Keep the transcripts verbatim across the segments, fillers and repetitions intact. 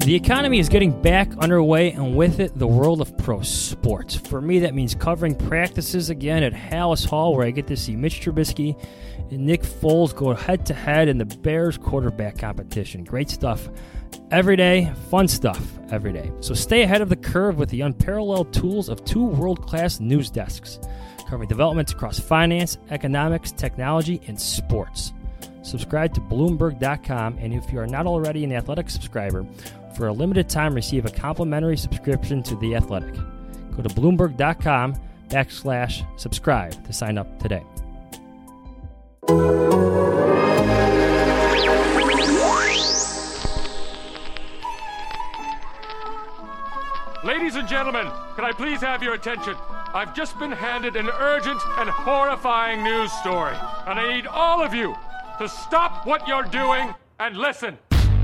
The economy is getting back underway, and with it, the world of pro sports. For me, that means covering practices again at Halas Hall, where I get to see Mitch Trubisky and Nick Foles go head-to-head in the Bears quarterback competition. Great stuff every day, fun stuff every day. So stay ahead of the curve with the unparalleled tools of two world-class news desks, covering developments across finance, economics, technology, and sports. Subscribe to Bloomberg dot com, and if you are not already an Athletic subscriber, for a limited time, receive a complimentary subscription to The Athletic. Go to Bloomberg dot com backslash subscribe to sign up today. Ladies and gentlemen, can I please have your attention? I've just been handed an urgent and horrifying news story, and I need all of you to stop what you're doing and listen.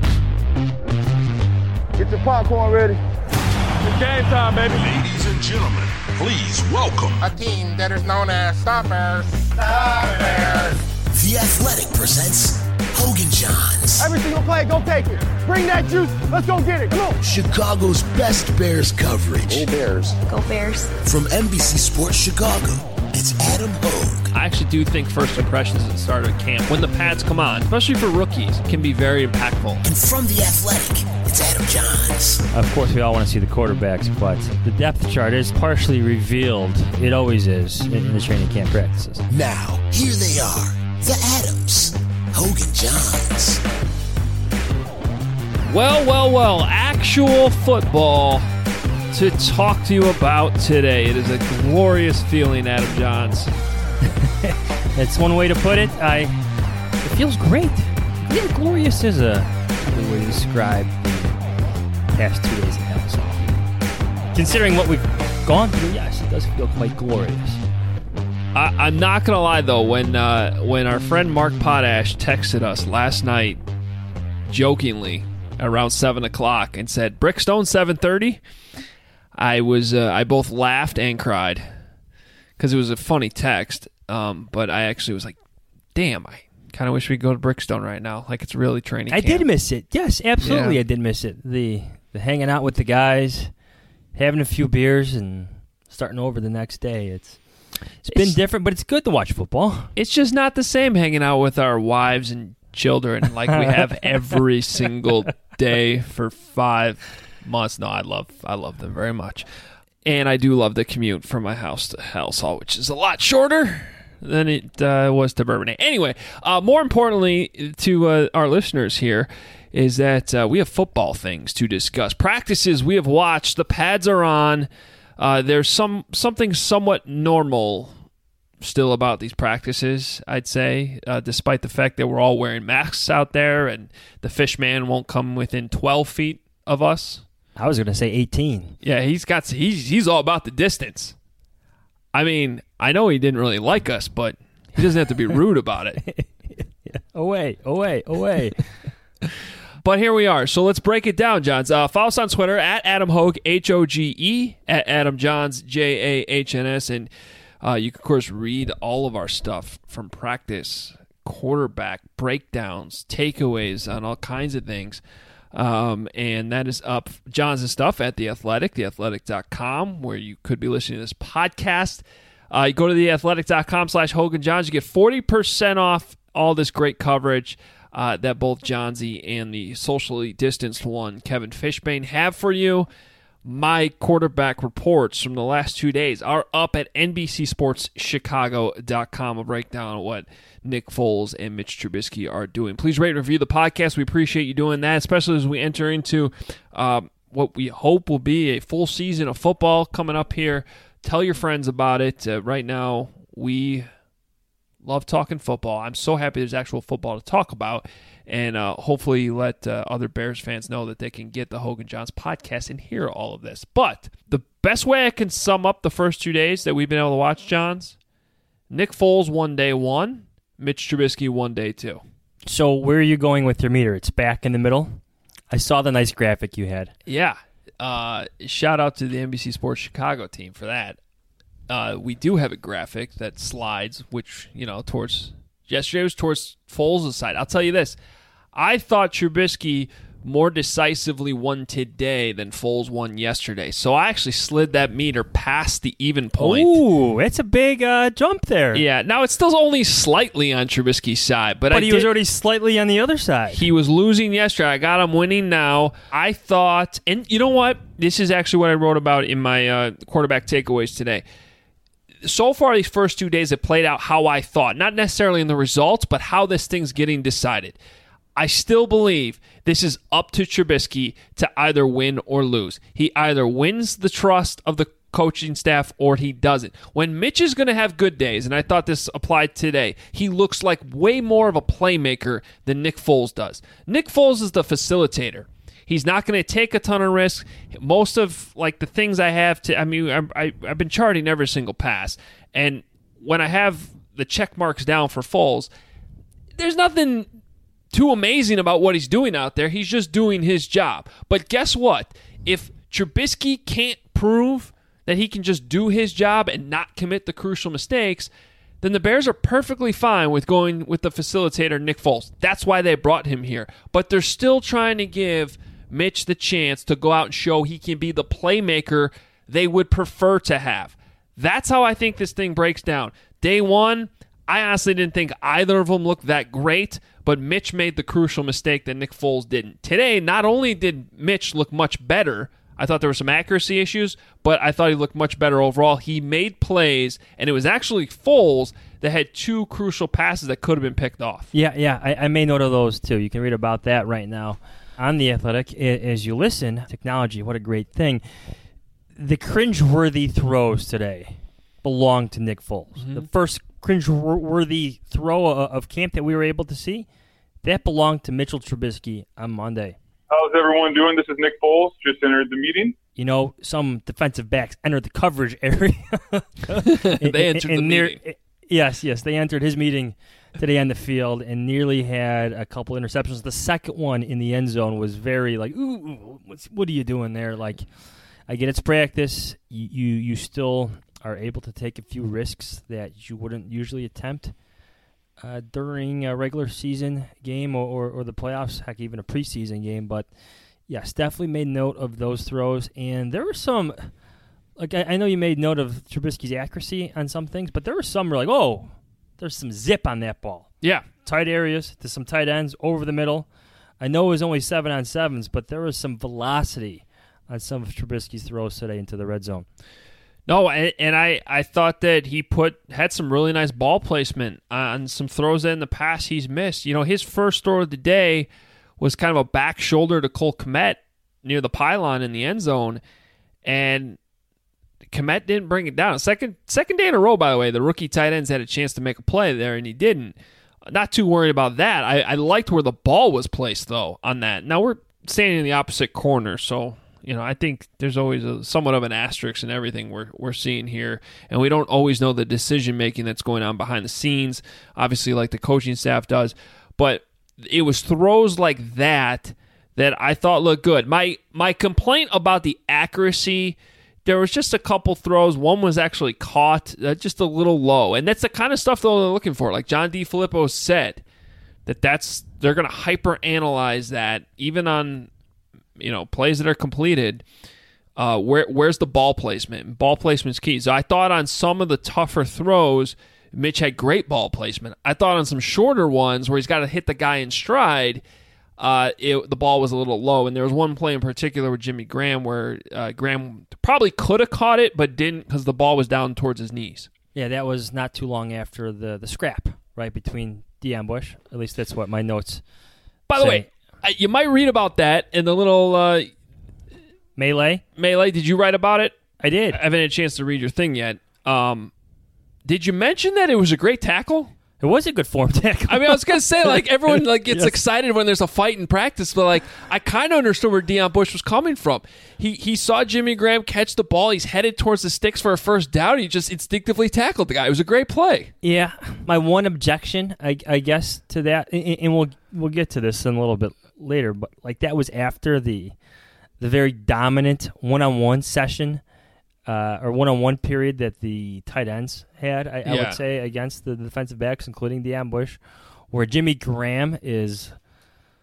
Get your popcorn ready. It's game time, baby. Ladies and gentlemen, please welcome a team that is known as Stoppers. Stoppers. The Athletic presents Hogan Johns. Every single play, go take it. Bring that juice. Let's go get it. Come on. Chicago's best Bears coverage. Go Bears. Go Bears. From N B C Sports Chicago, it's Adam Hogue. I actually do think first impressions at the start of camp, when the pads come on, especially for rookies, can be very impactful. And from The Athletic, it's Adam Johns. Of course, we all want to see the quarterbacks, but the depth chart is partially revealed. It always is in, in the training camp practices. Now, here they are, the Adams, Hogan Johns. Well, well, well, actual football to talk to you about today. It is a glorious feeling, Adam Johns. That's one way to put it. I. It feels great. Yeah, glorious is a good way to describe the past two days at Halas. Considering what we've gone through, yes, it does feel quite glorious. I, I'm not gonna lie though, when uh, when our friend Mark Potash texted us last night, jokingly around seven o'clock, and said Brickstone seven thirty, I was uh, I both laughed and cried because it was a funny text. Um, but I actually was like, damn, I kind of wish we could go to Brickstone right now. Like, it's really training I camp. did miss it. Yes, absolutely, Yeah. I did miss it. The the hanging out with the guys, having a few beers, and starting over the next day. It's It's been It's- different, but it's good to watch football. It's just not the same hanging out with our wives and children like we have every single day for five months. No, I love I love them very much. And I do love the commute from my house to Halas Hall, which is a lot shorter than it uh, was to Bourbonnais. Anyway, uh, more importantly to uh, our listeners here is that uh, we have football things to discuss. Practices we have watched. The pads are on. Uh, there's some something somewhat normal still about these practices, I'd say, uh, despite the fact that we're all wearing masks out there and the fish man won't come within twelve feet of us. I was going to say eighteen. Yeah, he's got he's he's all about the distance. I mean, I know he didn't really like us, but he doesn't have to be rude about it. Yeah. Away, away, away. But here we are. So let's break it down, Johns. Uh, follow us on Twitter at Adam Hogue, H O G E, at Adam Johns, J A H N S. And uh, you can, of course, read all of our stuff from practice, quarterback, breakdowns, takeaways on all kinds of things. Um, and that is up Johns' stuff at The Athletic, the athletic dot com, where you could be listening to this podcast. Uh, you go to the athletic dot com slash Hogan Johns. You get forty percent off all this great coverage uh, that both Johnsy and the socially distanced one, Kevin Fishbane, have for you. My quarterback reports from the last two days are up at N B C Sports Chicago dot com. A breakdown of what Nick Foles and Mitch Trubisky are doing. Please rate and review the podcast. We appreciate you doing that, especially as we enter into um, what we hope will be a full season of football coming up here. Tell your friends about it. Uh, right now, we love talking football. I'm so happy there's actual football to talk about, and uh, hopefully let uh, other Bears fans know that they can get the Hogan Johns podcast and hear all of this. But the best way I can sum up the first two days that we've been able to watch Johns, Nick Foles one day one, Mitch Trubisky one day two. So where are you going with your meter? It's back in the middle? I saw the nice graphic you had. Yeah. Uh, shout out to the N B C Sports Chicago team for that. Uh, we do have a graphic that slides, which, you know, towards yesterday was towards Foles' side. I'll tell you this. I thought Trubisky more decisively won today than Foles won yesterday. So I actually slid that meter past the even point. Ooh, it's a big uh, jump there. Yeah, now it's still only slightly on Trubisky's side, but, but I he did, was already slightly on the other side. He was losing yesterday. I got him winning now. I thought, and you know what? This is actually what I wrote about in my uh, quarterback takeaways today. So far, these first two days have played out how I thought. Not necessarily in the results, but how this thing's getting decided. I still believe this is up to Trubisky to either win or lose. He either wins the trust of the coaching staff or he doesn't. When Mitch is going to have good days, and I thought this applied today, he looks like way more of a playmaker than Nick Foles does. Nick Foles is the facilitator. He's not going to take a ton of risks. Most of like the things I have to, I mean, I, I, I've been charting every single pass, and when I have the check marks down for Foles, there's nothing too amazing about what he's doing out there. He's just doing his job. But guess what? If Trubisky can't prove that he can just do his job and not commit the crucial mistakes, then the Bears are perfectly fine with going with the facilitator, Nick Foles. That's why they brought him here. But they're still trying to give Mitch the chance to go out and show he can be the playmaker they would prefer to have. That's how I think this thing breaks down. Day one, I honestly didn't think either of them looked that great, but Mitch made the crucial mistake that Nick Foles didn't. Today, not only did Mitch look much better, I thought there were some accuracy issues, but I thought he looked much better overall. He made plays, and it was actually Foles that had two crucial passes that could have been picked off. Yeah, yeah, I, I made note of those too. You can read about that right now on The Athletic as you listen. Technology, what a great thing. The cringeworthy throws today belong to Nick Foles. Mm-hmm. The first cringeworthy throw of camp that we were able to see, that belonged to Mitchell Trubisky on Monday. How's everyone doing? This is Nick Foles. Just entered the meeting. You know, some defensive backs entered the coverage area. They entered and, and the near, meeting. Yes, yes. They entered his meeting today on the field and nearly had a couple interceptions. The second one in the end zone was very like, ooh, what's, what are you doing there? Like, I get it's practice. You, you, you still are able to take a few risks that you wouldn't usually attempt uh, during a regular season game or, or, or the playoffs, heck, even a preseason game. But, yes, definitely made note of those throws. And there were some, like I, I know you made note of Trubisky's accuracy on some things, but there were some where like, oh, there's some zip on that ball. Yeah. Tight areas to some tight ends over the middle. I know it was only seven on sevens, but there was some velocity on some of Trubisky's throws today into the red zone. No, and, and I, I thought that he put had some really nice ball placement on some throws that in the past he's missed. You know, his first throw of the day was kind of a back shoulder to Cole Kmet near the pylon in the end zone, and Kmet didn't bring it down. Second second day in a row, by the way, the rookie tight ends had a chance to make a play there, and he didn't. Not too worried about that. I, I liked where the ball was placed, though, on that. Now, we're standing in the opposite corner, so you know I think there's always a, somewhat of an asterisk in everything we're we're seeing here, and we don't always know the decision-making that's going on behind the scenes, obviously like the coaching staff does, but it was throws like that that I thought looked good. My my complaint about the accuracy, there was just a couple throws. One was actually caught uh, just a little low. And that's the kind of stuff they're looking for. Like John DeFilippo said, that that's they're going to hyper-analyze that, even on you know plays that are completed. Uh, where Where's the ball placement? Ball placement's key. So I thought on some of the tougher throws, Mitch had great ball placement. I thought on some shorter ones where he's got to hit the guy in stride, Uh, it, the ball was a little low, and there was one play in particular with Jimmy Graham where uh, Graham probably could have caught it, but didn't because the ball was down towards his knees. Yeah, that was not too long after the, the scrap, right, between Deion Bush. At least that's what my notes By the say. way, I, you might read about that in the little uh, melee. Melee. Did you write about it? I did. I haven't had a chance to read your thing yet. Um, did you mention that it was a great tackle? It was a good form tackle. I mean, I was going to say, like, everyone like gets Yes. excited when there's a fight in practice, but, like, I kind of understood where Deion Bush was coming from. He he saw Jimmy Graham catch the ball. He's headed towards the sticks for a first down. He just instinctively tackled the guy. It was a great play. Yeah, my one objection, I, I guess, to that, and, and we'll we'll get to this in a little bit later, but, like, that was after the the very dominant one-on-one session Uh, or one-on-one period that the tight ends had, I, I Yeah. would say, against the defensive backs, including Deion Bush, where Jimmy Graham is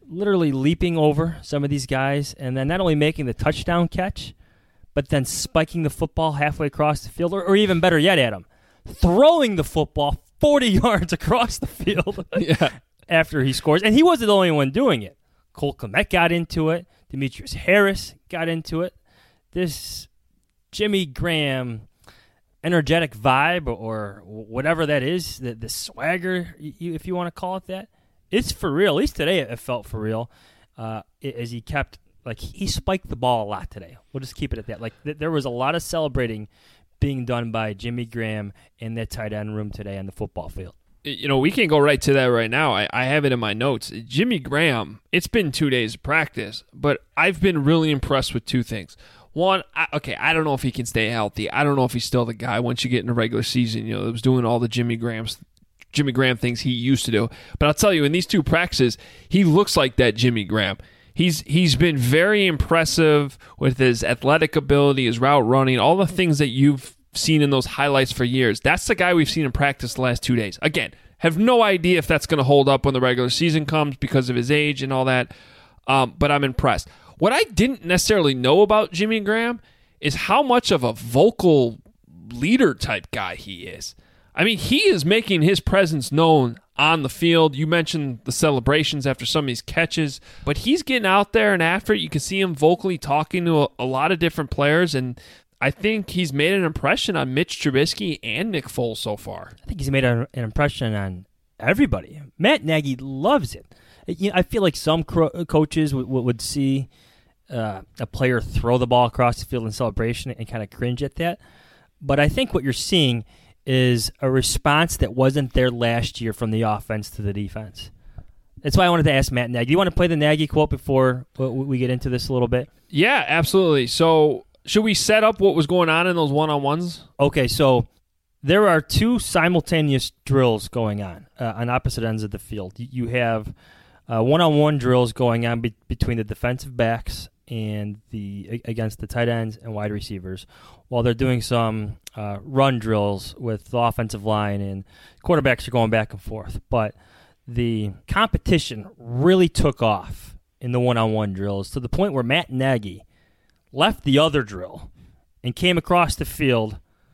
literally leaping over some of these guys and then not only making the touchdown catch, but then spiking the football halfway across the field, or, or even better yet, Adam, throwing the football forty yards across the field yeah. after he scores. And he wasn't the only one doing it. Cole Kmet got into it. Demetrius Harris got into it. This Jimmy Graham energetic vibe, or whatever that is, the, the swagger, if you want to call it that, it's for real. At least today it felt for real uh, as he kept, like, he spiked the ball a lot today. We'll just keep it at that. Like, th- there was a lot of celebrating being done by Jimmy Graham in that tight end room today on the football field. You know, we can go right to that right now. I, I have it in my notes. Jimmy Graham, it's been two days of practice, but I've been really impressed with two things. One, I, okay, I don't know if he can stay healthy. I don't know if he's still the guy once you get in the regular season, you know, that was doing all the Jimmy Graham's Jimmy Graham things he used to do. But I'll tell you, in these two practices, he looks like that Jimmy Graham. He's he's been very impressive with his athletic ability, his route running, all the things that you've seen in those highlights for years. That's the guy we've seen in practice the last two days. Again, have no idea if that's going to hold up when the regular season comes because of his age and all that, um, but I'm impressed. What I didn't necessarily know about Jimmy Graham is how much of a vocal leader type guy he is. I mean, he is making his presence known on the field. You mentioned the celebrations after some of these catches, but he's getting out there and after it. You can see him vocally talking to a, a lot of different players, and I think he's made an impression on Mitch Trubisky and Nick Foles so far. I think he's made a, an impression on everybody. Matt Nagy loves it. You know, I feel like some cro- coaches would, would see uh, a player throw the ball across the field in celebration and kind of cringe at that. But I think what you're seeing is a response that wasn't there last year from the offense to the defense. That's why I wanted to ask Matt Nagy. Do you want to play the Nagy quote before we get into this a little bit? Yeah, absolutely. So should we set up what was going on in those one-on-ones? Okay, so there are two simultaneous drills going on uh, on opposite ends of the field. You have uh, one-on-one drills going on be- between the defensive backs and the against the tight ends and wide receivers, while they're doing some uh, run drills with the offensive line, and quarterbacks are going back and forth. But the competition really took off in the one-on-one drills to the point where Matt Nagy left the other drill and came across the field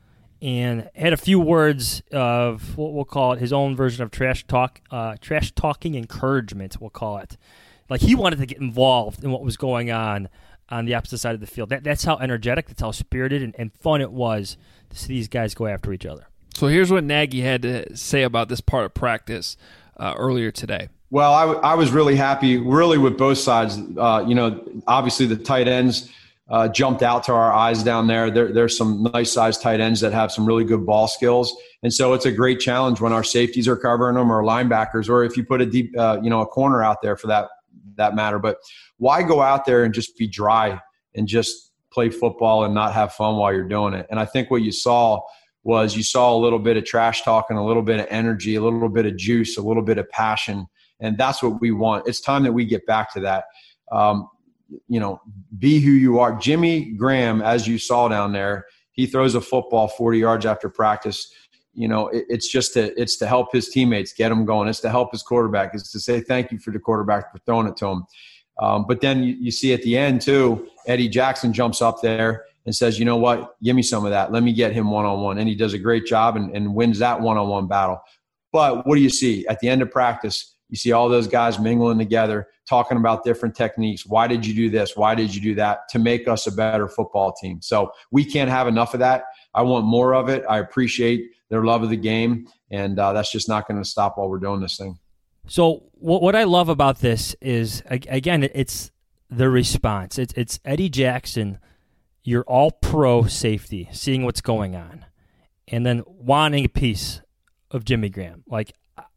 and had a few words of what we'll call it his own version of trash talk, uh, trash talking encouragement, we'll call it. Like, he wanted to get involved in what was going on on the opposite side of the field. That, that's how energetic, that's how spirited and, and fun it was to see these guys go after each other. So here's what Nagy had to say about this part of practice uh, earlier today. Well, I, w- I was really happy, really, with both sides. Uh, you know, obviously the tight ends uh, jumped out to our eyes down there. there. There's some nice-sized tight ends that have some really good ball skills. And so it's a great challenge when our safeties are covering them, or linebackers, or if you put a deep, uh, you know, a corner out there for that that matter. But why go out there and just be dry and just play football and not have fun while you're doing it? And I think what you saw was you saw a little bit of trash talk and a little bit of energy, a little bit of juice, a little bit of passion. And that's what we want. It's time that we get back to that. Um, you know, be who you are. Jimmy Graham, as you saw down there, he throws a football forty yards after practice. You know, it, it's just to, it's to help his teammates get them going. It's to help his quarterback. It's to say thank you for the quarterback for throwing it to him. Um, but then you, you see at the end, too, Eddie Jackson jumps up there and says, you know what, give me some of that. Let me get him one-on-one. And he does a great job and, and wins that one-on-one battle. But what do you see? At the end of practice, you see all those guys mingling together, talking about different techniques. Why did you do this? Why did you do that? To make us a better football team. So we can't have enough of that. I want more of it. I appreciate their love of the game, and uh, that's just not going to stop while we're doing this thing. So what what I love about this is, again, it's the response. It's, it's Eddie Jackson, your all-pro safety, seeing what's going on, and then wanting a piece of Jimmy Graham. Like,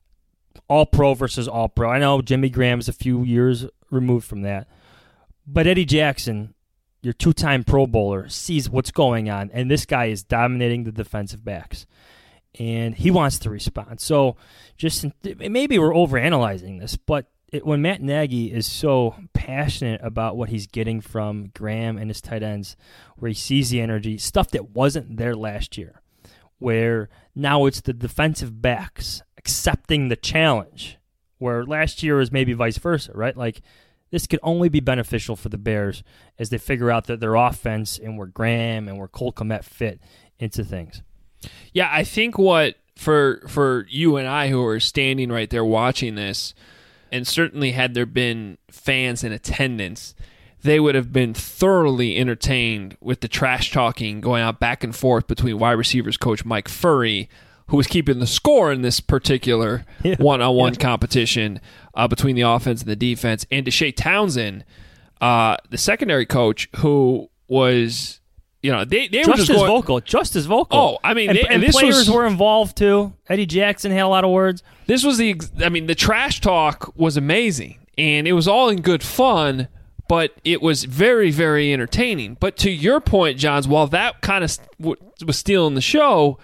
all-pro versus all-pro. I know Jimmy Graham is a few years removed from that, but Eddie Jackson, your two-time Pro Bowler, sees what's going on, and this guy is dominating the defensive backs. And he wants to respond. So just maybe we're overanalyzing this, but it, when Matt Nagy is so passionate about what he's getting from Graham and his tight ends, where he sees the energy, stuff that wasn't there last year, where now it's the defensive backs accepting the challenge where last year was maybe vice versa, right? Like, this could only be beneficial for the Bears as they figure out that their offense and where Graham and where Cole Kmet fit into things. Yeah, I think what for for you and I who are standing right there watching this, and certainly had there been fans in attendance, they would have been thoroughly entertained with the trash talking going out back and forth between wide receivers coach Mike Furrey, who was keeping the score in this particular yeah. one-on-one yeah. competition uh, between the offense and the defense, and Deshae Townsend, uh, the secondary coach, who was, you know, they, they just were just as going, vocal, just as vocal. Oh, I mean, and, they, and this players was, were involved too. Eddie Jackson had a lot of words. This was the, I mean, the trash talk was amazing, and it was all in good fun, but it was very, very entertaining. But to your point, Johns, while that kind of was stealing the show,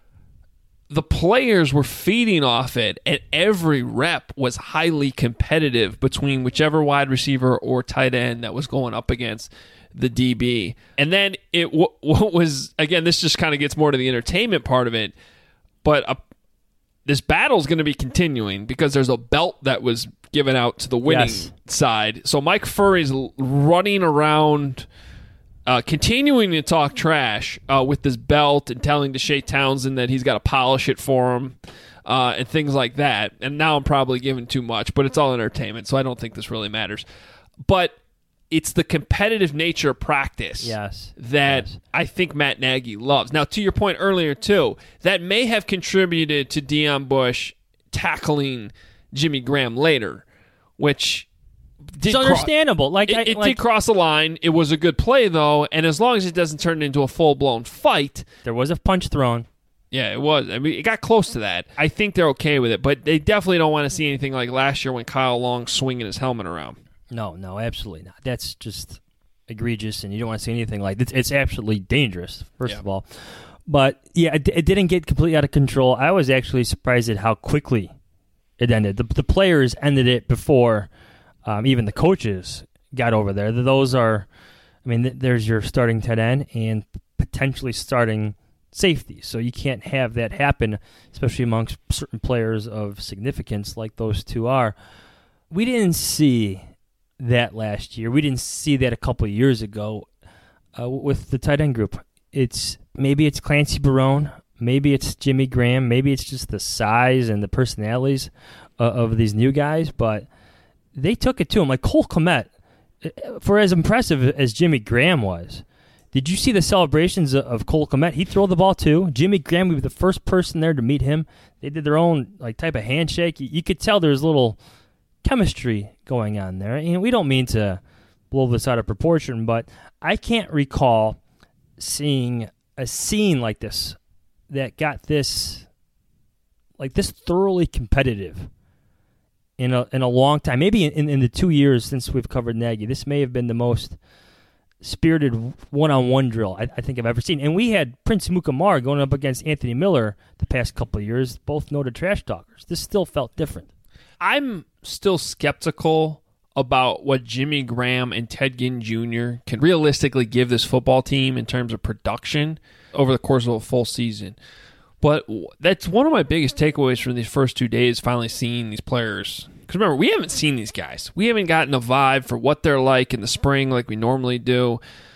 the players were feeding off it, and every rep was highly competitive between whichever wide receiver or tight end that was going up against the D B. And then it w- was, again, this just kind of gets more to the entertainment part of it, but a, this battle is going to be continuing because there's a belt that was given out to the winning yes. side. So Mike Furrey's running around, Uh, continuing to talk trash uh, with this belt and telling Deshae Townsend that he's got to polish it for him uh, and things like that. And now I'm probably giving too much, but it's all entertainment, so I don't think this really matters. But it's the competitive nature of practice yes. that yes. I think Matt Nagy loves. Now, to your point earlier, too, that may have contributed to Deon Bush tackling Jimmy Graham later, which... It's understandable. Cro- like it, I, it like, did cross the line. It was a good play, though, and as long as it doesn't turn into a full-blown fight, there was a punch thrown. Yeah, it was. I mean, it got close to that. I think they're okay with it, but they definitely don't want to see anything like last year when Kyle Long swinging his helmet around. No, no, absolutely not. That's just egregious, and you don't want to see anything like this. It's absolutely dangerous, first yeah. of all. But yeah, it, it didn't get completely out of control. I was actually surprised at how quickly it ended. The, the players ended it before. Um, even the coaches got over there. Those are, I mean, th- there's your starting tight end and potentially starting safety. So you can't have that happen, especially amongst certain players of significance like those two are. We didn't see that last year. We didn't see that a couple of years ago uh, with the tight end group. It's maybe it's Clancy Barone, maybe it's Jimmy Graham, maybe it's just the size and the personalities uh, of these new guys, but they took it to him. Like Cole Kmet, for as impressive as Jimmy Graham was, did you see the celebrations of Cole Kmet? He threw the ball too. Jimmy Graham would be the first person there to meet him. They did their own like type of handshake. You, you could tell there's a little chemistry going on there. And we don't mean to blow this out of proportion, but I can't recall seeing a scene like this that got this like this thoroughly competitive in a in a long time. Maybe in, in the two years since we've covered Nagy, this may have been the most spirited one-on-one drill I, I think I've ever seen. And we had Prince Mukamara going up against Anthony Miller the past couple of years, both noted trash talkers. This still felt different. I'm still skeptical about what Jimmy Graham and Ted Ginn Junior can realistically give this football team in terms of production over the course of a full season. But that's one of my biggest takeaways from these first two days, finally seeing these players. Because remember, we haven't seen these guys. We haven't gotten a vibe for what they're like in the spring like we normally do.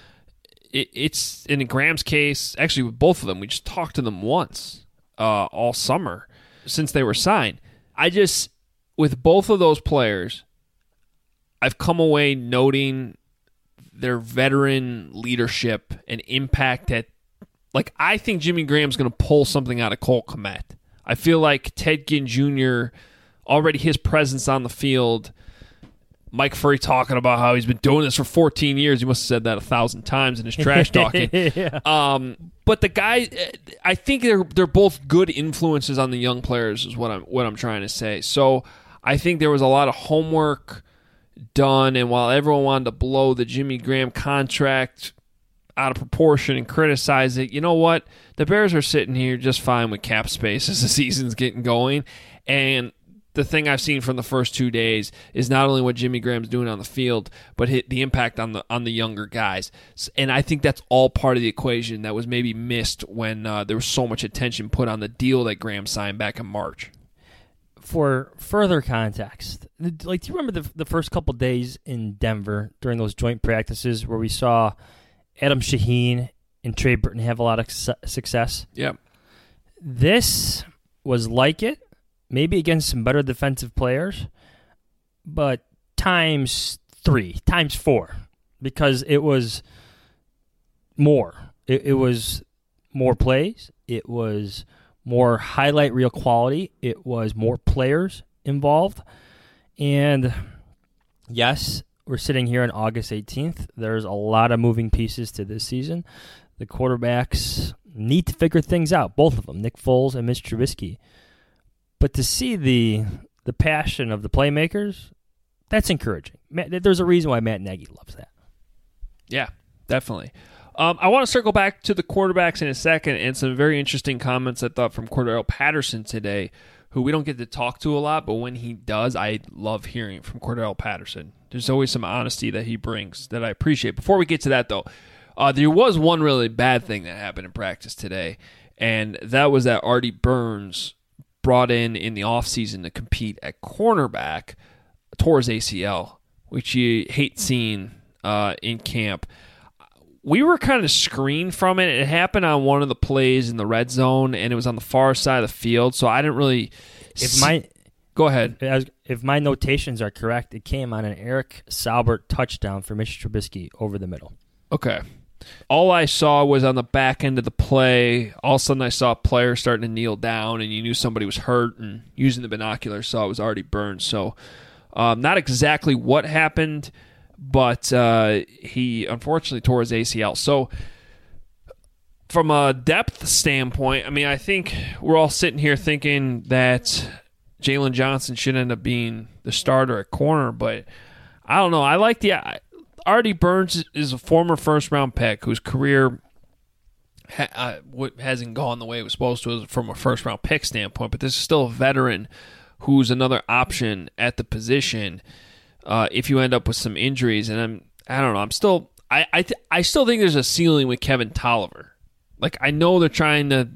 It, it's, in Graham's case, actually with both of them, we just talked to them once uh, all summer since they were signed. I just, with both of those players, I've come away noting their veteran leadership and impact at Like, I think Jimmy Graham's going to pull something out of Cole Kmet. I feel like Ted Ginn Junior, already his presence on the field, Mike Furrey talking about how he's been doing this for fourteen years. He must have said that a thousand times in his trash talking. yeah. um, but the guy, I think they're they're both good influences on the young players is what I'm, what I'm trying to say. So I think there was a lot of homework done, and while everyone wanted to blow the Jimmy Graham contract out of proportion and criticize it, you know what? The Bears are sitting here just fine with cap space as the season's getting going. And the thing I've seen from the first two days is not only what Jimmy Graham's doing on the field, but hit the impact on the on the younger guys. And I think that's all part of the equation that was maybe missed when uh, there was so much attention put on the deal that Graham signed back in March. for further context, like, do you remember the the first couple days in Denver during those joint practices where we saw Adam Shaheen and Trey Burton have a lot of su- success? Yep. This was like it, maybe against some better defensive players, but times three, times four, because it was more. It, it was more plays. It was more highlight reel quality. It was more players involved. And yes, we're sitting here on August eighteenth. There's a lot of moving pieces to this season. The quarterbacks need to figure things out, both of them, Nick Foles and Mitch Trubisky. But to see the the passion of the playmakers, that's encouraging. Matt, there's a reason why Matt Nagy loves that. Yeah, definitely. Um, I want to circle back to the quarterbacks in a second and some very interesting comments I thought from Cordarrelle Patterson today, who we don't get to talk to a lot, but when he does, I love hearing from Cordarrelle Patterson. There's always some honesty that he brings that I appreciate. Before we get to that, though, uh, there was one really bad thing that happened in practice today, and that was that Artie Burns brought in in the offseason to compete at cornerback, tore his A C L, which you hate seeing uh, in camp. We were kind of screened from it. It happened on one of the plays in the red zone, and it was on the far side of the field, so I didn't really... If my Go ahead. If my notations are correct, it came on an Eric Saubert touchdown for Mitch Trubisky over the middle. Okay. All I saw was on the back end of the play, all of a sudden I saw a player starting to kneel down, and you knew somebody was hurt, and using the binoculars saw it was already burned. So um, not exactly what happened, but uh, he unfortunately tore his A C L. So from a depth standpoint, I mean, I think we're all sitting here thinking that Jalen Johnson should end up being the starter at corner, but I don't know. I like the uh, Artie Burns is a former first-round pick whose career ha- uh, hasn't gone the way it was supposed to from a first-round pick standpoint, but this is still a veteran who's another option at the position uh, if you end up with some injuries. And I'm, I don't know. I'm still, I, I, th- I still think there's a ceiling with Kevin Tolliver. Like, I know they're trying to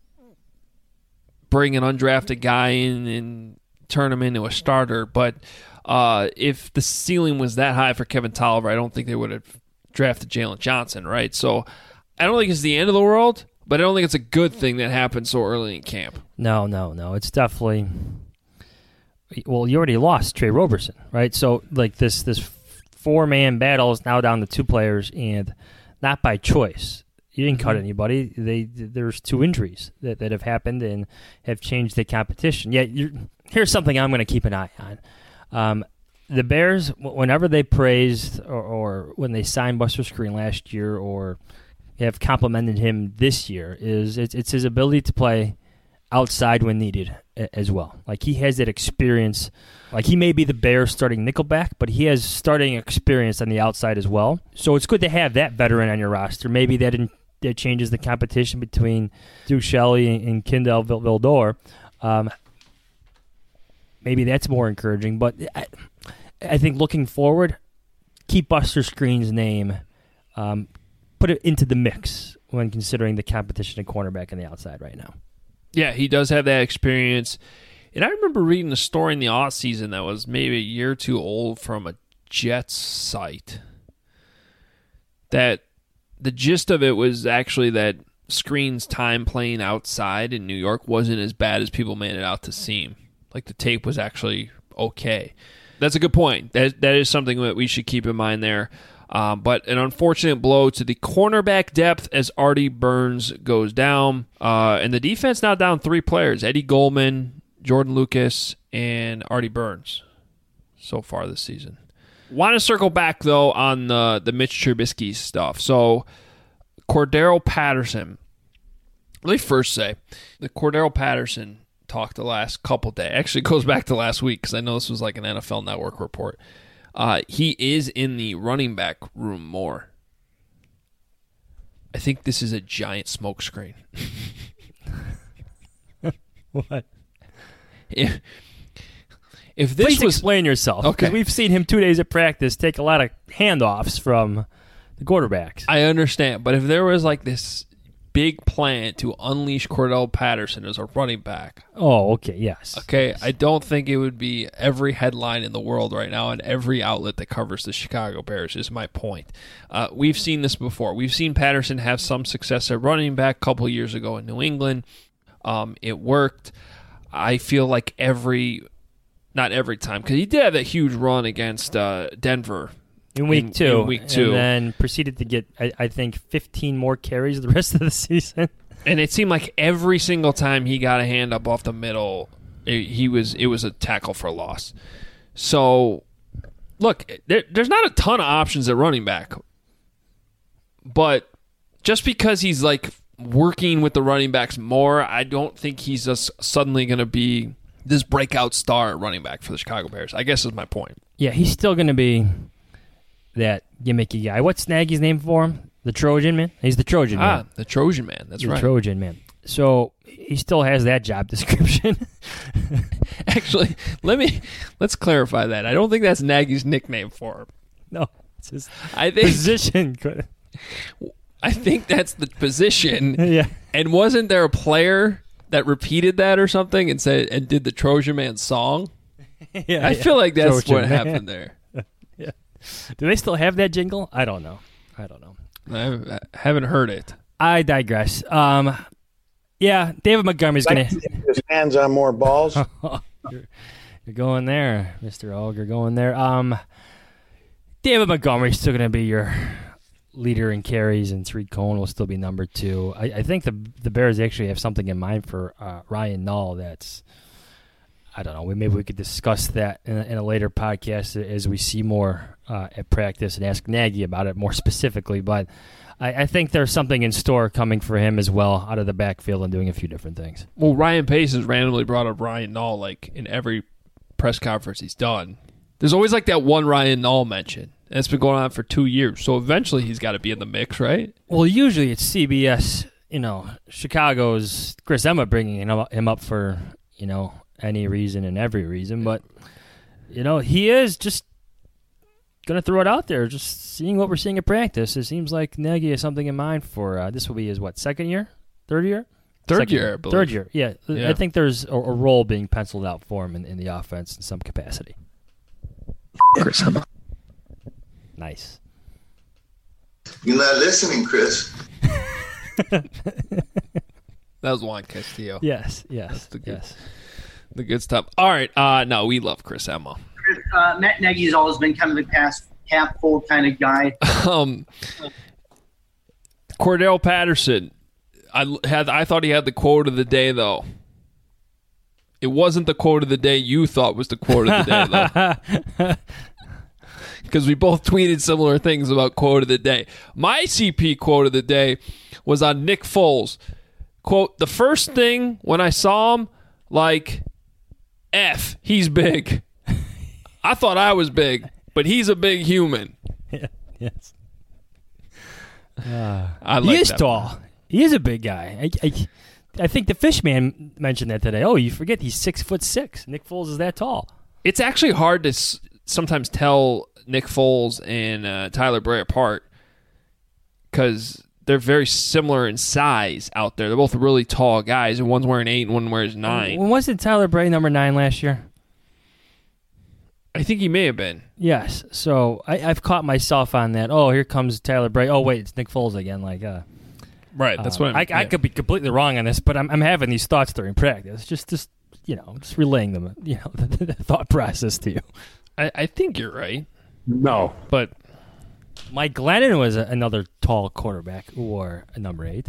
bring an undrafted guy in and turn him into a starter, but uh, if the ceiling was that high for Kevin Tolliver, I don't think they would have drafted Jalen Johnson, right? So I don't think it's the end of the world, but I don't think it's a good thing that happened so early in camp. No, no, no. It's definitely... Well, you already lost Trey Roberson, right? So, like, this this four-man battle is now down to two players, and not by choice. You didn't cut anybody. They There's two injuries that, that have happened and have changed the competition. Yeah, you're, here's something I'm going to keep an eye on. Um, the Bears, whenever they praised or, or when they signed Buster Skrine last year or have complimented him this year, is it's, it's his ability to play outside when needed as well. Like, he has that experience. Like, he may be the Bears starting nickelback, but he has starting experience on the outside as well. So it's good to have that veteran on your roster. Maybe that, in, that changes the competition between Duke Shelley and, and Kindle Vildor. Um, maybe that's more encouraging. But I, I think looking forward, keep Buster Skrine's name, um, put it into the mix when considering the competition at cornerback on the outside right now. Yeah, he does have that experience. And I remember reading a story in the offseason that was maybe a year or two old from a Jets site that the gist of it was actually that Skrine's time playing outside in New York wasn't as bad as people made it out to seem. Like, the tape was actually okay. That's a good point. That That is something that we should keep in mind there. Um, but an unfortunate blow to the cornerback depth as Artie Burns goes down. Uh, and the defense now down three players, Eddie Goldman, Jordan Lucas, and Artie Burns so far this season. Want to circle back, though, on the, the Mitch Trubisky stuff. So Cordarrelle Patterson. Let me first say, the Cordarrelle Patterson talk the last couple days. Actually, it goes back to last week because I know this was like an N F L Network report. Uh, he is in the running back room more. I think this is a giant smokescreen. What? If, if this Please was explain yourself. Okay. Because we've seen him two days at practice take a lot of handoffs from the quarterbacks. I understand, but if there was like this big plan to unleash Cordell Patterson as a running back. Oh, okay, yes. Okay, yes. I don't think it would be every headline in the world right now and every outlet that covers the Chicago Bears is my point. Uh, we've seen this before. We've seen Patterson have some success at running back a couple years ago in New England. Um, it worked. I feel like every, not every time, because he did have that huge run against uh, Denver. In week in, two. In week two. And then proceeded to get, I, I think, fifteen more carries the rest of the season. And it seemed like every single time he got a hand up off the middle, it, he was it was a tackle for loss. So, look, there, there's not a ton of options at running back. But just because he's like working with the running backs more, I don't think he's just suddenly going to be this breakout star at running back for the Chicago Bears. I guess is my point. Yeah, he's still going to be that gimmicky guy. What's Nagy's name for him? The Trojan man? He's the Trojan ah, man. the Trojan man. That's the right. The Trojan man. So he still has that job description. Actually, let me let's clarify that. I don't think that's Nagy's nickname for him. No, it's his I think, position. I think that's the position. Yeah. And wasn't there a player that repeated that or something and said and did the Trojan man song? Yeah, I yeah. feel like that's Trojan what man. happened there. Yeah. Do they still have that jingle? I don't know. I don't know. I haven't heard it. I digress. Um, yeah, David Montgomery's going to... His hands on more balls. you're, you're going there, Mister Og. You're going there. Um, David Montgomery's still going to be your leader in carries, and Tariq Cohen will still be number two. I, I think the the Bears actually have something in mind for uh, Ryan Nall that's... I don't know. Maybe we could discuss that in a, in a later podcast as we see more uh, at practice and ask Nagy about it more specifically. But I, I think there's something in store coming for him as well out of the backfield and doing a few different things. Well, Ryan Pace has randomly brought up Ryan Nall like in every press conference he's done. There's always like that one Ryan Nall mention. And it's been going on for two years. So eventually he's got to be in the mix, right? Well, usually it's C B S, you know, Chicago's Chris Emma bringing him up, him up for, you know, any reason and every reason, but you know he is just gonna throw it out there. Just seeing what we're seeing at practice, it seems like Nagy has something in mind for uh, this will be his what second year, third year, third second year, I believe. third year. Yeah. yeah, I think there's a, a role being penciled out for him in, in the offense in some capacity. Chris, nice. You're not listening, Chris. That was Juan Castillo. Yes, yes, That's the good, yes. The good stuff. All right. Uh, no, we love Chris Emma. Uh, Matt Nagy's always been kind of a pass half full kind of guy. um, Cordell Patterson. I had. I thought he had the quote of the day, though. It wasn't the quote of the day you thought was the quote of the day, though. Because we both tweeted similar things about quote of the day. My C P quote of the day was on Nick Foles. Quote, the first thing when I saw him, like, F, he's big. I thought I was big, but he's a big human. Yeah, yes. Uh, I like he is that tall. one. He is a big guy. I, I, I think the Fishman mentioned that today. Oh, you forget he's six foot six. Nick Foles is that tall. It's actually hard to s- sometimes tell Nick Foles and uh, Tyler Bray apart because they're very similar in size out there. They're both really tall guys, and one's wearing eight and one wears nine. When wasn't Tyler Bray number nine last year? I think he may have been. Yes. So I, I've caught myself on that. Oh, here comes Tyler Bray. Oh, wait, it's Nick Foles again. Like, uh, right. That's uh, what I, mean. I, I yeah. could be completely wrong on this, but I'm, I'm having these thoughts during practice. Just, just you know, just relaying them. You know, the, the thought process to you. I, I think you're right. No, but Mike Glennon was a, another tall quarterback who wore a number eight.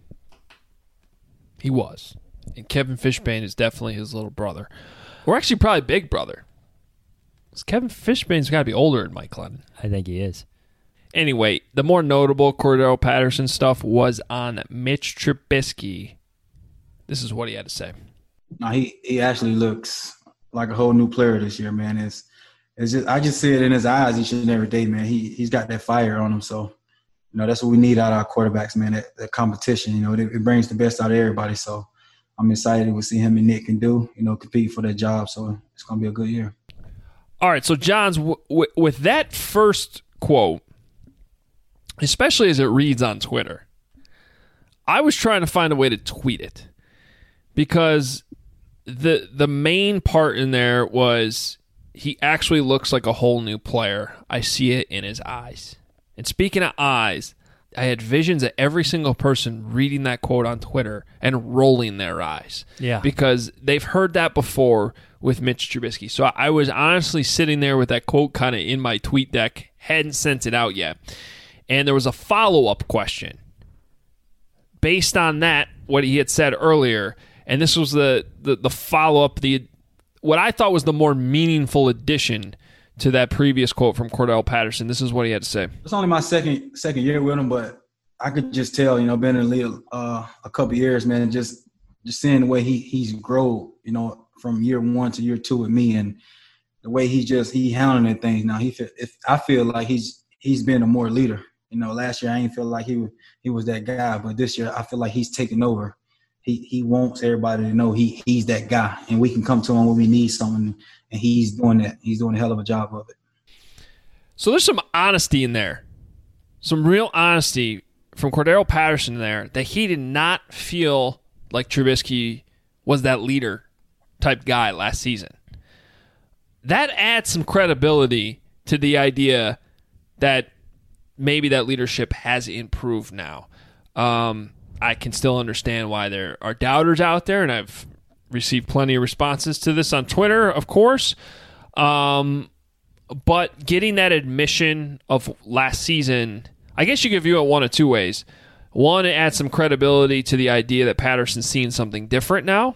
He was. And Kevin Fishbane is definitely his little brother. Or actually probably big brother. Because Kevin Fishbane's got to be older than Mike Glennon. I think he is. Anyway, the more notable Cordell Patterson stuff was on Mitch Trubisky. This is what he had to say. No, he, he actually looks like a whole new player this year, man. It's it's just I just see it in his eyes each and every day, man. He he's got that fire on him. So, you know, that's what we need out of our quarterbacks, man. That, that competition, you know, it, it brings the best out of everybody. So I'm excited to see him and Nick can do, you know, compete for that job. So it's gonna be a good year. All right, so Johns, w- w- with that first quote, especially as it reads on Twitter, I was trying to find a way to tweet it because the the main part in there was he actually looks like a whole new player. I see it in his eyes. And speaking of eyes, I had visions of every single person reading that quote on Twitter and rolling their eyes. Yeah. Because they've heard that before with Mitch Trubisky. So I was honestly sitting there with that quote kind of in my tweet deck, hadn't sent it out yet. And there was a follow-up question based on that, what he had said earlier. And this was the, the, the follow-up, the what I thought was the more meaningful addition to that previous quote from Cordell Patterson. This is what he had to say. It's only my second second year with him, but I could just tell, you know, been in the league uh, a couple of years, man, just just seeing the way he he's grown, you know, from year one to year two with me, and the way he just he handling things now. He feel, if I feel like he's he's been a more leader. You know, last year I ain't feel like he he was that guy, but this year I feel like he's taking over. He he wants everybody to know he he's that guy, and we can come to him when we need something, and he's doing that. He's doing a hell of a job of it. So there's some honesty in there, some real honesty from Cordell Patterson there, that he did not feel like Trubisky was that leader type guy last season. That adds some credibility to the idea that maybe that leadership has improved now. Um, I can still understand why there are doubters out there, and I've received plenty of responses to this on Twitter, of course. Um, but getting that admission of last season, I guess you could view it one of two ways. One, it adds some credibility to the idea that Patterson's seeing something different now.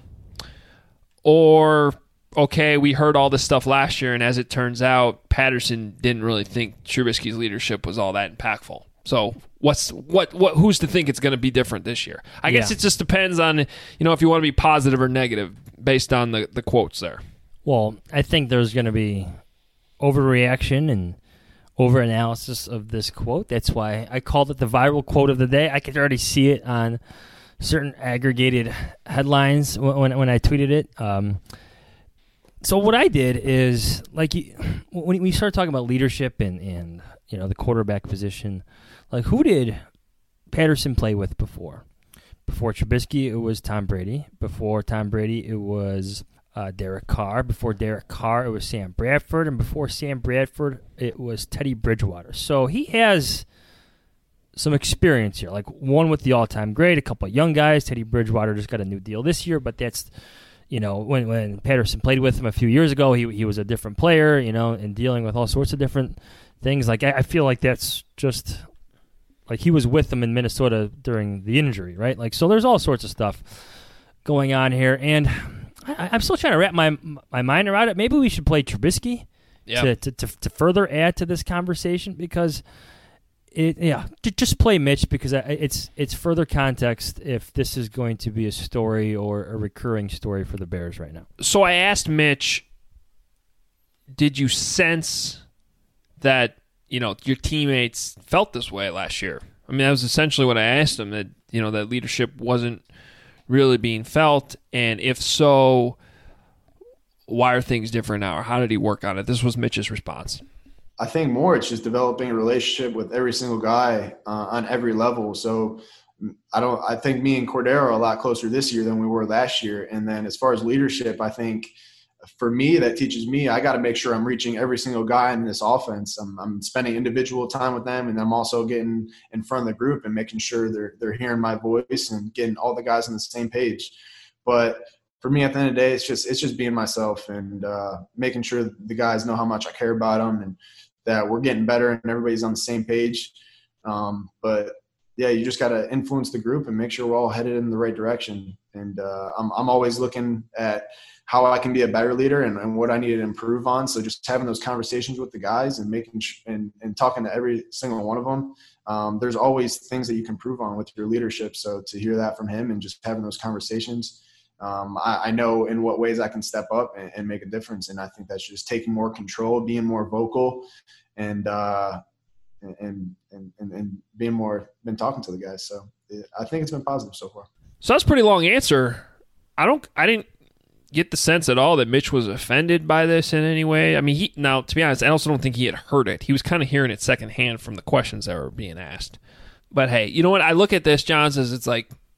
Or, okay, we heard all this stuff last year, and as it turns out, Patterson didn't really think Trubisky's leadership was all that impactful. So what's what what who's to think it's going to be different this year? I yeah. guess it just depends on, you know, if you want to be positive or negative based on the, the quotes there. Well, I think there's going to be overreaction and overanalysis of this quote. That's why I called it the viral quote of the day. I could already see it on certain aggregated headlines when when I tweeted it. Um, so what I did is, like, when we started talking about leadership and, and you know, the quarterback position, like, who did Patterson play with before? Before Trubisky, it was Tom Brady. Before Tom Brady, it was uh, Derek Carr. Before Derek Carr, it was Sam Bradford. And before Sam Bradford, it was Teddy Bridgewater. So he has some experience here, like one with the all-time great, a couple of young guys. Teddy Bridgewater just got a new deal this year, but that's, you know, when when Patterson played with him a few years ago, he he was a different player, you know, and dealing with all sorts of different things. Like, I, I feel like that's just, like, he was with them in Minnesota during the injury, right? Like, so there's all sorts of stuff going on here, and I, I'm still trying to wrap my my mind around it. Maybe we should play Trubisky yeah. to, to, to to further add to this conversation, because it yeah, just play Mitch, because it's it's further context if this is going to be a story or a recurring story for the Bears right now. So I asked Mitch, did you sense that, you know, your teammates felt this way last year? I mean, that was essentially what I asked him, that, you know, that leadership wasn't really being felt, and if so, why are things different now, or how did he work on it? This was Mitch's response. I think more it's just developing a relationship with every single guy uh, on every level. So I don't. I think me and Cordero are a lot closer this year than we were last year. And then as far as leadership, I think for me, that teaches me I got to make sure I'm reaching every single guy in this offense. I'm, I'm spending individual time with them, and I'm also getting in front of the group and making sure they're they're hearing my voice and getting all the guys on the same page. But for me, at the end of the day, it's just it's just being myself and uh, making sure the guys know how much I care about them and that we're getting better and everybody's on the same page. Um, but yeah, you just got to influence the group and make sure we're all headed in the right direction. And uh, I'm I'm always looking at how I can be a better leader and, and what I need to improve on. So just having those conversations with the guys and making sh- and, and talking to every single one of them. Um, there's always things that you can improve on with your leadership. So to hear that from him and just having those conversations, um, I, I know in what ways I can step up and, and make a difference. And I think that's just taking more control, being more vocal, and uh, and, and and and being more been talking to the guys. So I think it's been positive so far. So that's a pretty long answer. I don't. I didn't get the sense at all that Mitch was offended by this in any way. I mean, he now to be honest, I also don't think he had heard it. He was kind of hearing it secondhand from the questions that were being asked. But hey, you know what? I look at this, Johns, as it's like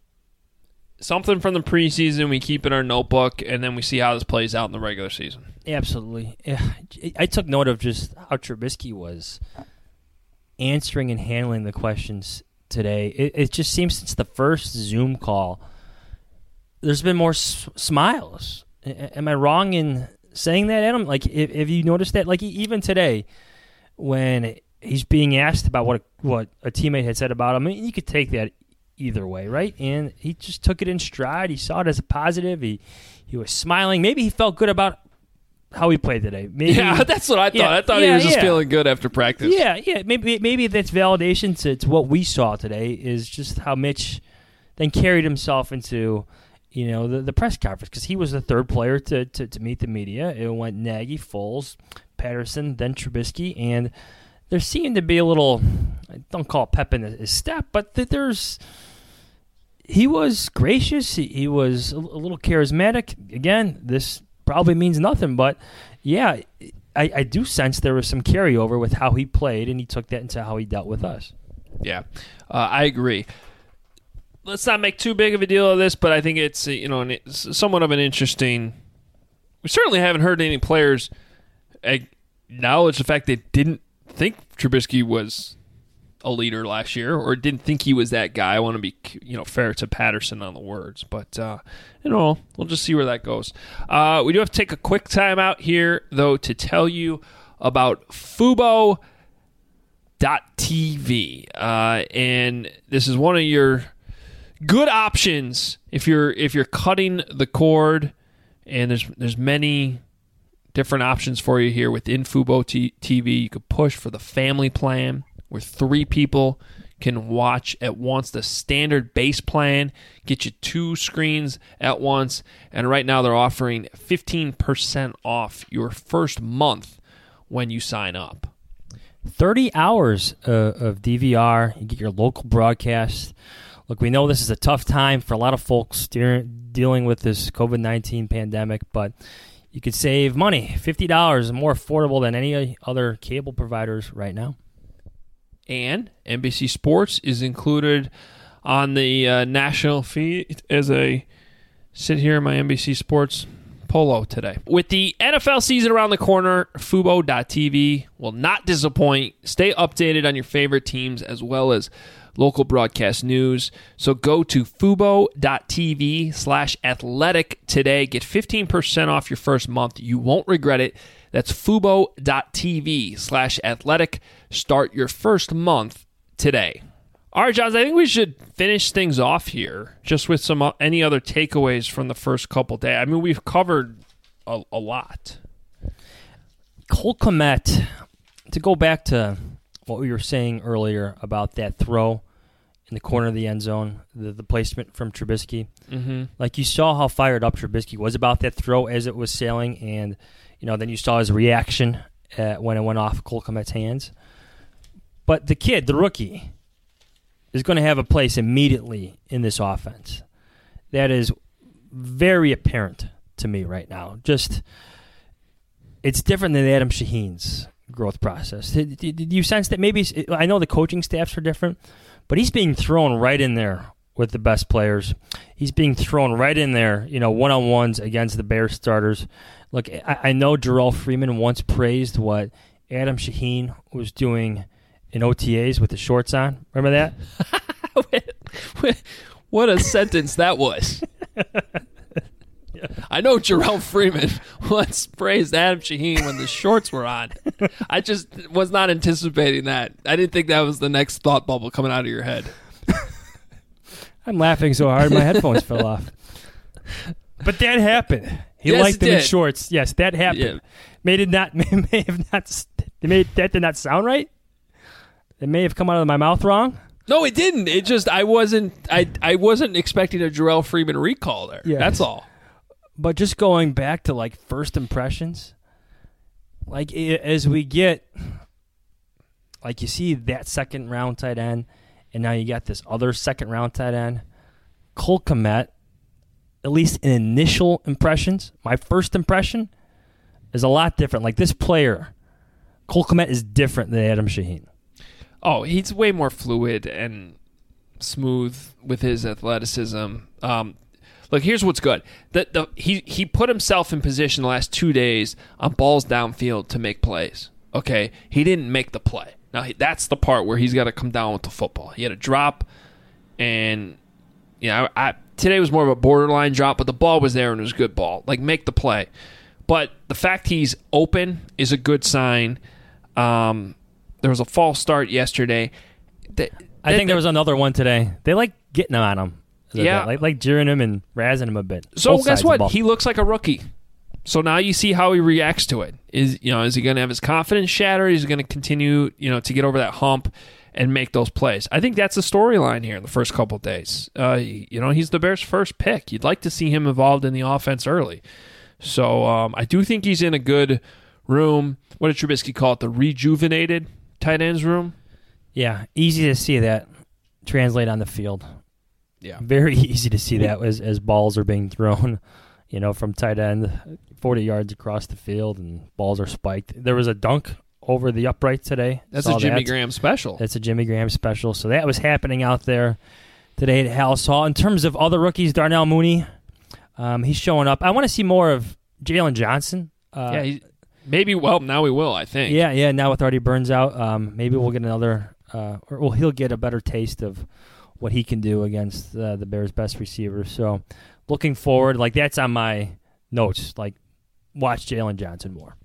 something from the preseason, we keep in our notebook, and then we see how this plays out in the regular season. Absolutely. Yeah. I took note of just how Trubisky was answering and handling the questions today. It, it just seems since the first Zoom call, there's been more s- smiles. A- am I wrong in saying that, Adam? Like, if, if you noticed that, like even today, when he's being asked about what a, what a teammate had said about him, I mean, you could take that either way, right? And he just took it in stride. He saw it as a positive. He he was smiling. Maybe he felt good about how he played today. Maybe, yeah, that's what I thought. Yeah, I thought yeah, he was just yeah. feeling good after practice. Yeah, yeah. Maybe maybe that's validation to, to what we saw today is just how Mitch then carried himself into, you know, the, the press conference because he was the third player to, to, to meet the media. It went Nagy, Foles, Patterson, then Trubisky, and there seemed to be a little, I don't call it pep in his step, but that there's, he was gracious. He, he was a, a little charismatic. Again, this probably means nothing, but yeah, I, I do sense there was some carryover with how he played, and he took that into how he dealt with us. Yeah, uh, I agree. Let's not make too big of a deal of this, but I think it's you know it's somewhat of an interesting. We certainly haven't heard any players acknowledge the fact they didn't think Trubisky was a leader last year, or didn't think he was that guy. I want to be you know fair to Patterson on the words, but uh, you know we'll just see where that goes. Uh, we do have to take a quick time out here, though, to tell you about Fubo dot T V, uh, and this is one of your good options if you're if you're cutting the cord, and there's there's many different options for you here within Fubo T V. You could push for the family plan, where three people can watch at once. The standard base plan get you two screens at once, and right now they're offering fifteen percent off your first month when you sign up. thirty hours uh, of D V R. You get your local broadcast. Look, we know this is a tough time for a lot of folks de- dealing with this covid nineteen pandemic, but you could save money. fifty dollars is more affordable than any other cable providers right now. And N B C Sports is included on the uh, national feed as I sit here in my N B C Sports polo today. With the N F L season around the corner, Fubo dot T V will not disappoint. Stay updated on your favorite teams as well as local broadcast news. So go to Fubo dot T V slash athletic today. Get fifteen percent off your first month. You won't regret it. That's Fubo dot T V slash athletic. Start your first month today. All right, Johns, I think we should finish things off here just with some uh, any other takeaways from the first couple days. I mean, we've covered a, a lot. Cole Kmet, to go back to what we were saying earlier about that throw in the corner of the end zone, the, the placement from Trubisky. Mm-hmm. Like, you saw how fired up Trubisky was about that throw as it was sailing, and you know then you saw his reaction uh, when it went off Cole Kmet's hands. But the kid, the rookie, is going to have a place immediately in this offense. That is very apparent to me right now. Just, it's different than Adam Shaheen's growth process. Did, did, did you sense that maybe, I know the coaching staffs are different, but he's being thrown right in there with the best players. He's being thrown right in there, you know, one-on-ones against the Bears starters. Look, I, I know Jarrell Freeman once praised what Adam Shaheen was doing in O T As with the shorts on. Remember that? What a sentence that was. I know Jarrell Freeman once praised Adam Shaheen when the shorts were on. I just was not anticipating that. I didn't think that was the next thought bubble coming out of your head. I'm laughing so hard my headphones fell off. But that happened. He yes, liked them did. in shorts. Yes, that happened. Yeah. Made it not may have not made that did not sound right? It may have come out of my mouth wrong. No, it didn't. It just I wasn't I I wasn't expecting a Jarrell Freeman recall there. Yes. That's all. But just going back to like first impressions, like as we get, like you see that second round tight end, and now you got this other second round tight end, Cole Kmet. At least in initial impressions, my first impression is a lot different. Like this player, Cole Kmet is different than Adam Shaheen. Oh, he's way more fluid and smooth with his athleticism. Um, Look, here's what's good. The, the, he, he put himself in position the last two days on balls downfield to make plays. Okay? He didn't make the play. Now, he, that's the part where he's got to come down with the football. He had a drop, and you know, I, I, today was more of a borderline drop, but the ball was there and it was a good ball. Like, make the play. But the fact he's open is a good sign. Um, there was a false start yesterday. They, I they, think there was another one today. They like getting on him. Yeah. Like, like jeering him and razzing him a bit. So Both guess sides of the what? ball. He looks like a rookie. So now you see how he reacts to it. Is you know is he going to have his confidence shattered? Is he going to continue you know to get over that hump and make those plays? I think that's the storyline here in the first couple of days. Uh, you know he's the Bears' first pick. You'd like to see him involved in the offense early. So um, I do think he's in a good room. What did Trubisky call it? The rejuvenated tight ends room. Yeah, easy to see that translate on the field. Yeah, very easy to see that as as balls are being thrown. You know, from tight end, forty yards across the field, and balls are spiked. There was a dunk over the upright today. That's Saw a Jimmy that. Graham special. That's a Jimmy Graham special. So that was happening out there today at Hallis Hall. In terms of other rookies, Darnell Mooney, um, he's showing up. I want to see more of Jalen Johnson. Uh, yeah, he, maybe. Well, now we will. I think. Yeah, yeah. Now with Artie Burns out, um, maybe we'll get another, uh, or well, he'll get a better taste of what he can do against uh, the Bears' best receivers. So. Looking forward, like that's on my notes. Like, watch Jalen Johnson more.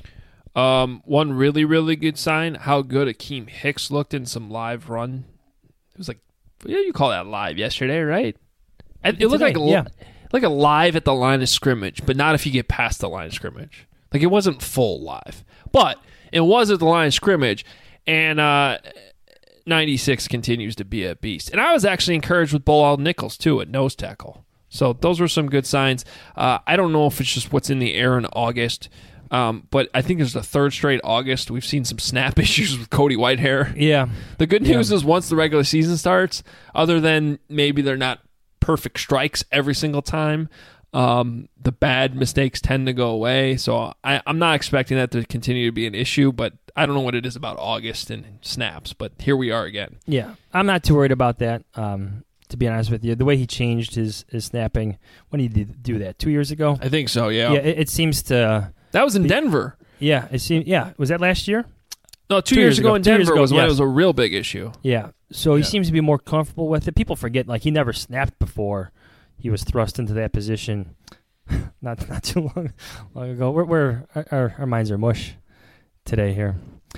Um, one really, really good sign: how good Akeem Hicks looked in some live run. It was like, yeah, you call that live yesterday, right? It, it looked Today, like yeah. like a live at the line of scrimmage, but not if you get past the line of scrimmage. Like it wasn't full live, but it was at the line of scrimmage, and uh, ninety-six continues to be a beast. And I was actually encouraged with Bilal Nichols too at nose tackle. So those were some good signs. Uh, I don't know if it's just what's in the air in August, um, but I think it's the third straight August. We've seen some snap issues with Cody Whitehair. Yeah. The good news yeah. is once the regular season starts, other than maybe they're not perfect strikes every single time, um, the bad mistakes tend to go away. So I, I'm not expecting that to continue to be an issue, but I don't know what it is about August and snaps, but here we are again. Yeah, I'm not too worried about that. Um, To be honest with you, the way he changed his, his snapping, when he did do that, two years ago? I think so, yeah. Yeah, it, it seems to... That was in be, Denver. Yeah, it seemed, yeah. Was that last year? No, two, two years, years ago in two Denver ago, was when yes. it was a real big issue. Yeah, so he yeah. seems to be more comfortable with it. People forget, like, he never snapped before he was thrust into that position not not too long, long ago. We're, we're, our, our minds are mush today here.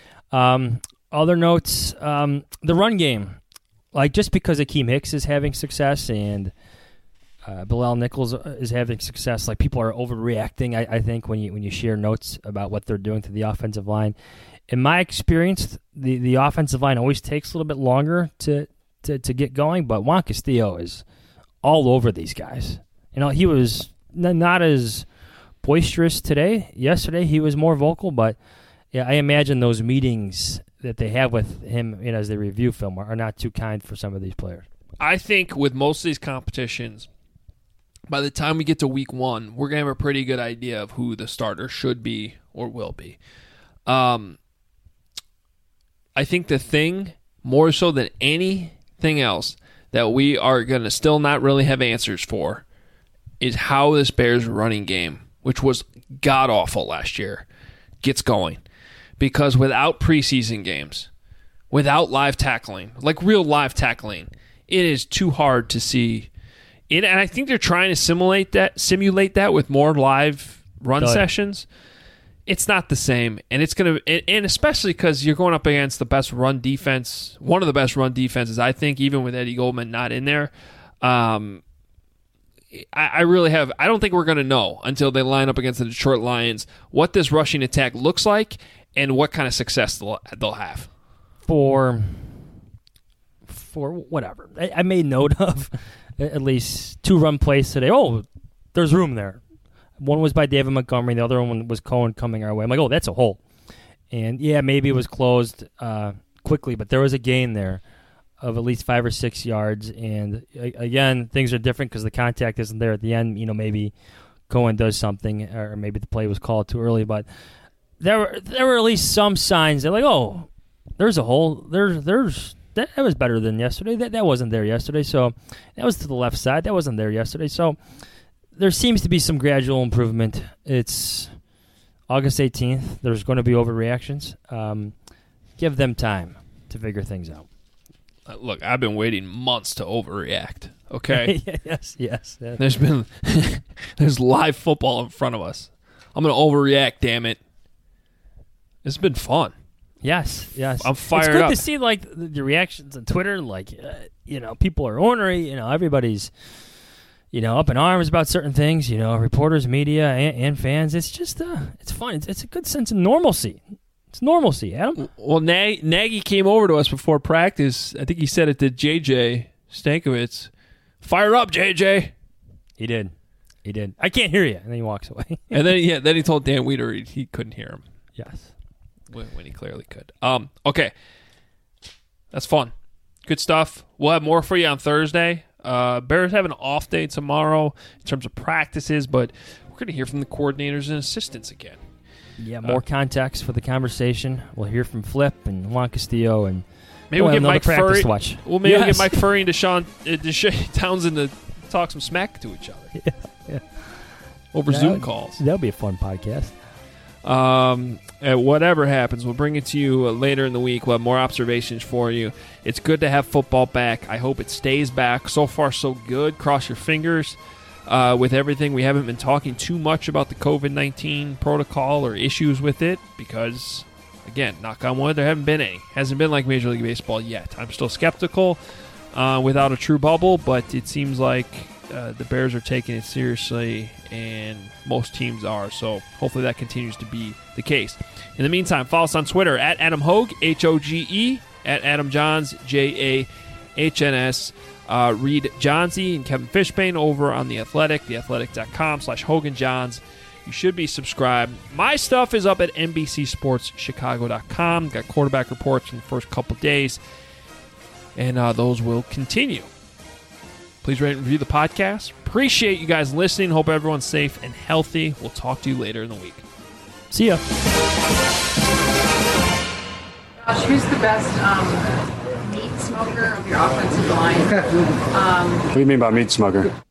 Um, other notes, um, the run game. Like, just because Akeem Hicks is having success and uh, Bilal Nichols is having success, like, people are overreacting, I, I think, when you when you share notes about what they're doing to the offensive line. In my experience, the, the offensive line always takes a little bit longer to, to, to get going, but Juan Castillo is all over these guys. You know, he was n- not as boisterous today. Yesterday, he was more vocal, but yeah, I imagine those meetings that they have with him, you know, as they review film are not too kind for some of these players. I think with most of these competitions, by the time we get to week one, we're going to have a pretty good idea of who the starter should be or will be. Um, I think the thing, more so than anything else, that we are going to still not really have answers for is how this Bears running game, which was god-awful last year, gets going. Because without preseason games, without live tackling, like real live tackling, it is too hard to see. It, and I think they're trying to simulate that, simulate that with more live run oh, yeah. sessions. It's not the same, and it's gonna, and, and especially because you're going up against the best run defense, one of the best run defenses, I think, even with Eddie Goldman not in there. Um, I, I really have. I don't think we're going to know until they line up against the Detroit Lions what this rushing attack looks like. And what kind of success they'll, they'll have. For for whatever. I, I made note of at least two run plays today. Oh, there's room there. One was by David Montgomery. The other one was Cohen coming our way. I'm like, oh, that's a hole. And, yeah, maybe it was closed uh, quickly, but there was a gain there of at least five or six yards. And, again, things are different because the contact isn't there at the end. You know, maybe Cohen does something or maybe the play was called too early, but – There were there were at least some signs that like, oh, there's a hole. There's there's That, that was better than yesterday. That that wasn't there yesterday. So that was to the left side. That wasn't there yesterday. So there seems to be some gradual improvement. It's August eighteenth. There's going to be overreactions. Um, give them time to figure things out. Uh, look, I've been waiting months to overreact. Okay. yes, yes, yes. There's been there's live football in front of us. I'm going to overreact. Damn it. It's been fun. Yes, yes. I'm fired It's good up. to see like the, the reactions on Twitter. Like, uh, you know, people are ornery. You know, everybody's, you know, up in arms about certain things. You know, reporters, media, and, and fans. It's just, uh, it's fun. It's, it's a good sense of normalcy. It's normalcy, Adam. Well, Nag- Nagy came over to us before practice. I think he said it to J J Stankiewicz. Fire up, J J. He did. He did. I can't hear you. And then he walks away. and then, yeah, then he told Dan Weeder he, he couldn't hear him. Yes. When, when he clearly could. Um, okay. That's fun. Good stuff. We'll have more for you on Thursday. Uh, Bears have an off day tomorrow in terms of practices, but we're going to hear from the coordinators and assistants again. Yeah, more uh, context for the conversation. We'll hear from Flip and Juan Castillo and maybe we'll get Mike Furry. Watch. Well, maybe yes. we'll get Mike Furry and Deshaun, uh, Deshaun Townsend to talk some smack to each other. Yeah, yeah. Over that, Zoom calls. That'll be a fun podcast. Um, whatever happens, we'll bring it to you later in the week. We'll have more observations for you. It's good to have football back. I hope it stays back. So far, so good. Cross your fingers. Uh, with everything, we haven't been talking too much about the covid nineteen protocol or issues with it because, again, knock on wood, there haven't been any. Hasn't been like Major League Baseball yet. I'm still skeptical uh, without a true bubble, but it seems like uh, the Bears are taking it seriously, and most teams are. So hopefully that continues to be the case. In the meantime, follow us on Twitter at Adam Hoge, H O G E, at Adam Johns, J A H N S. Uh, read Johnsy and Kevin Fishbane over on The Athletic, theathletic.com slash Hogan Johns. You should be subscribed. My stuff is up at N B C Sports Chicago dot com. Got quarterback reports from the first couple days, and uh, those will continue. Please rate and review the podcast. Appreciate you guys listening. Hope everyone's safe and healthy. We'll talk to you later in the week. See ya. Josh, who's the best um, meat smoker of your offensive line? Um, what do you mean by meat smoker?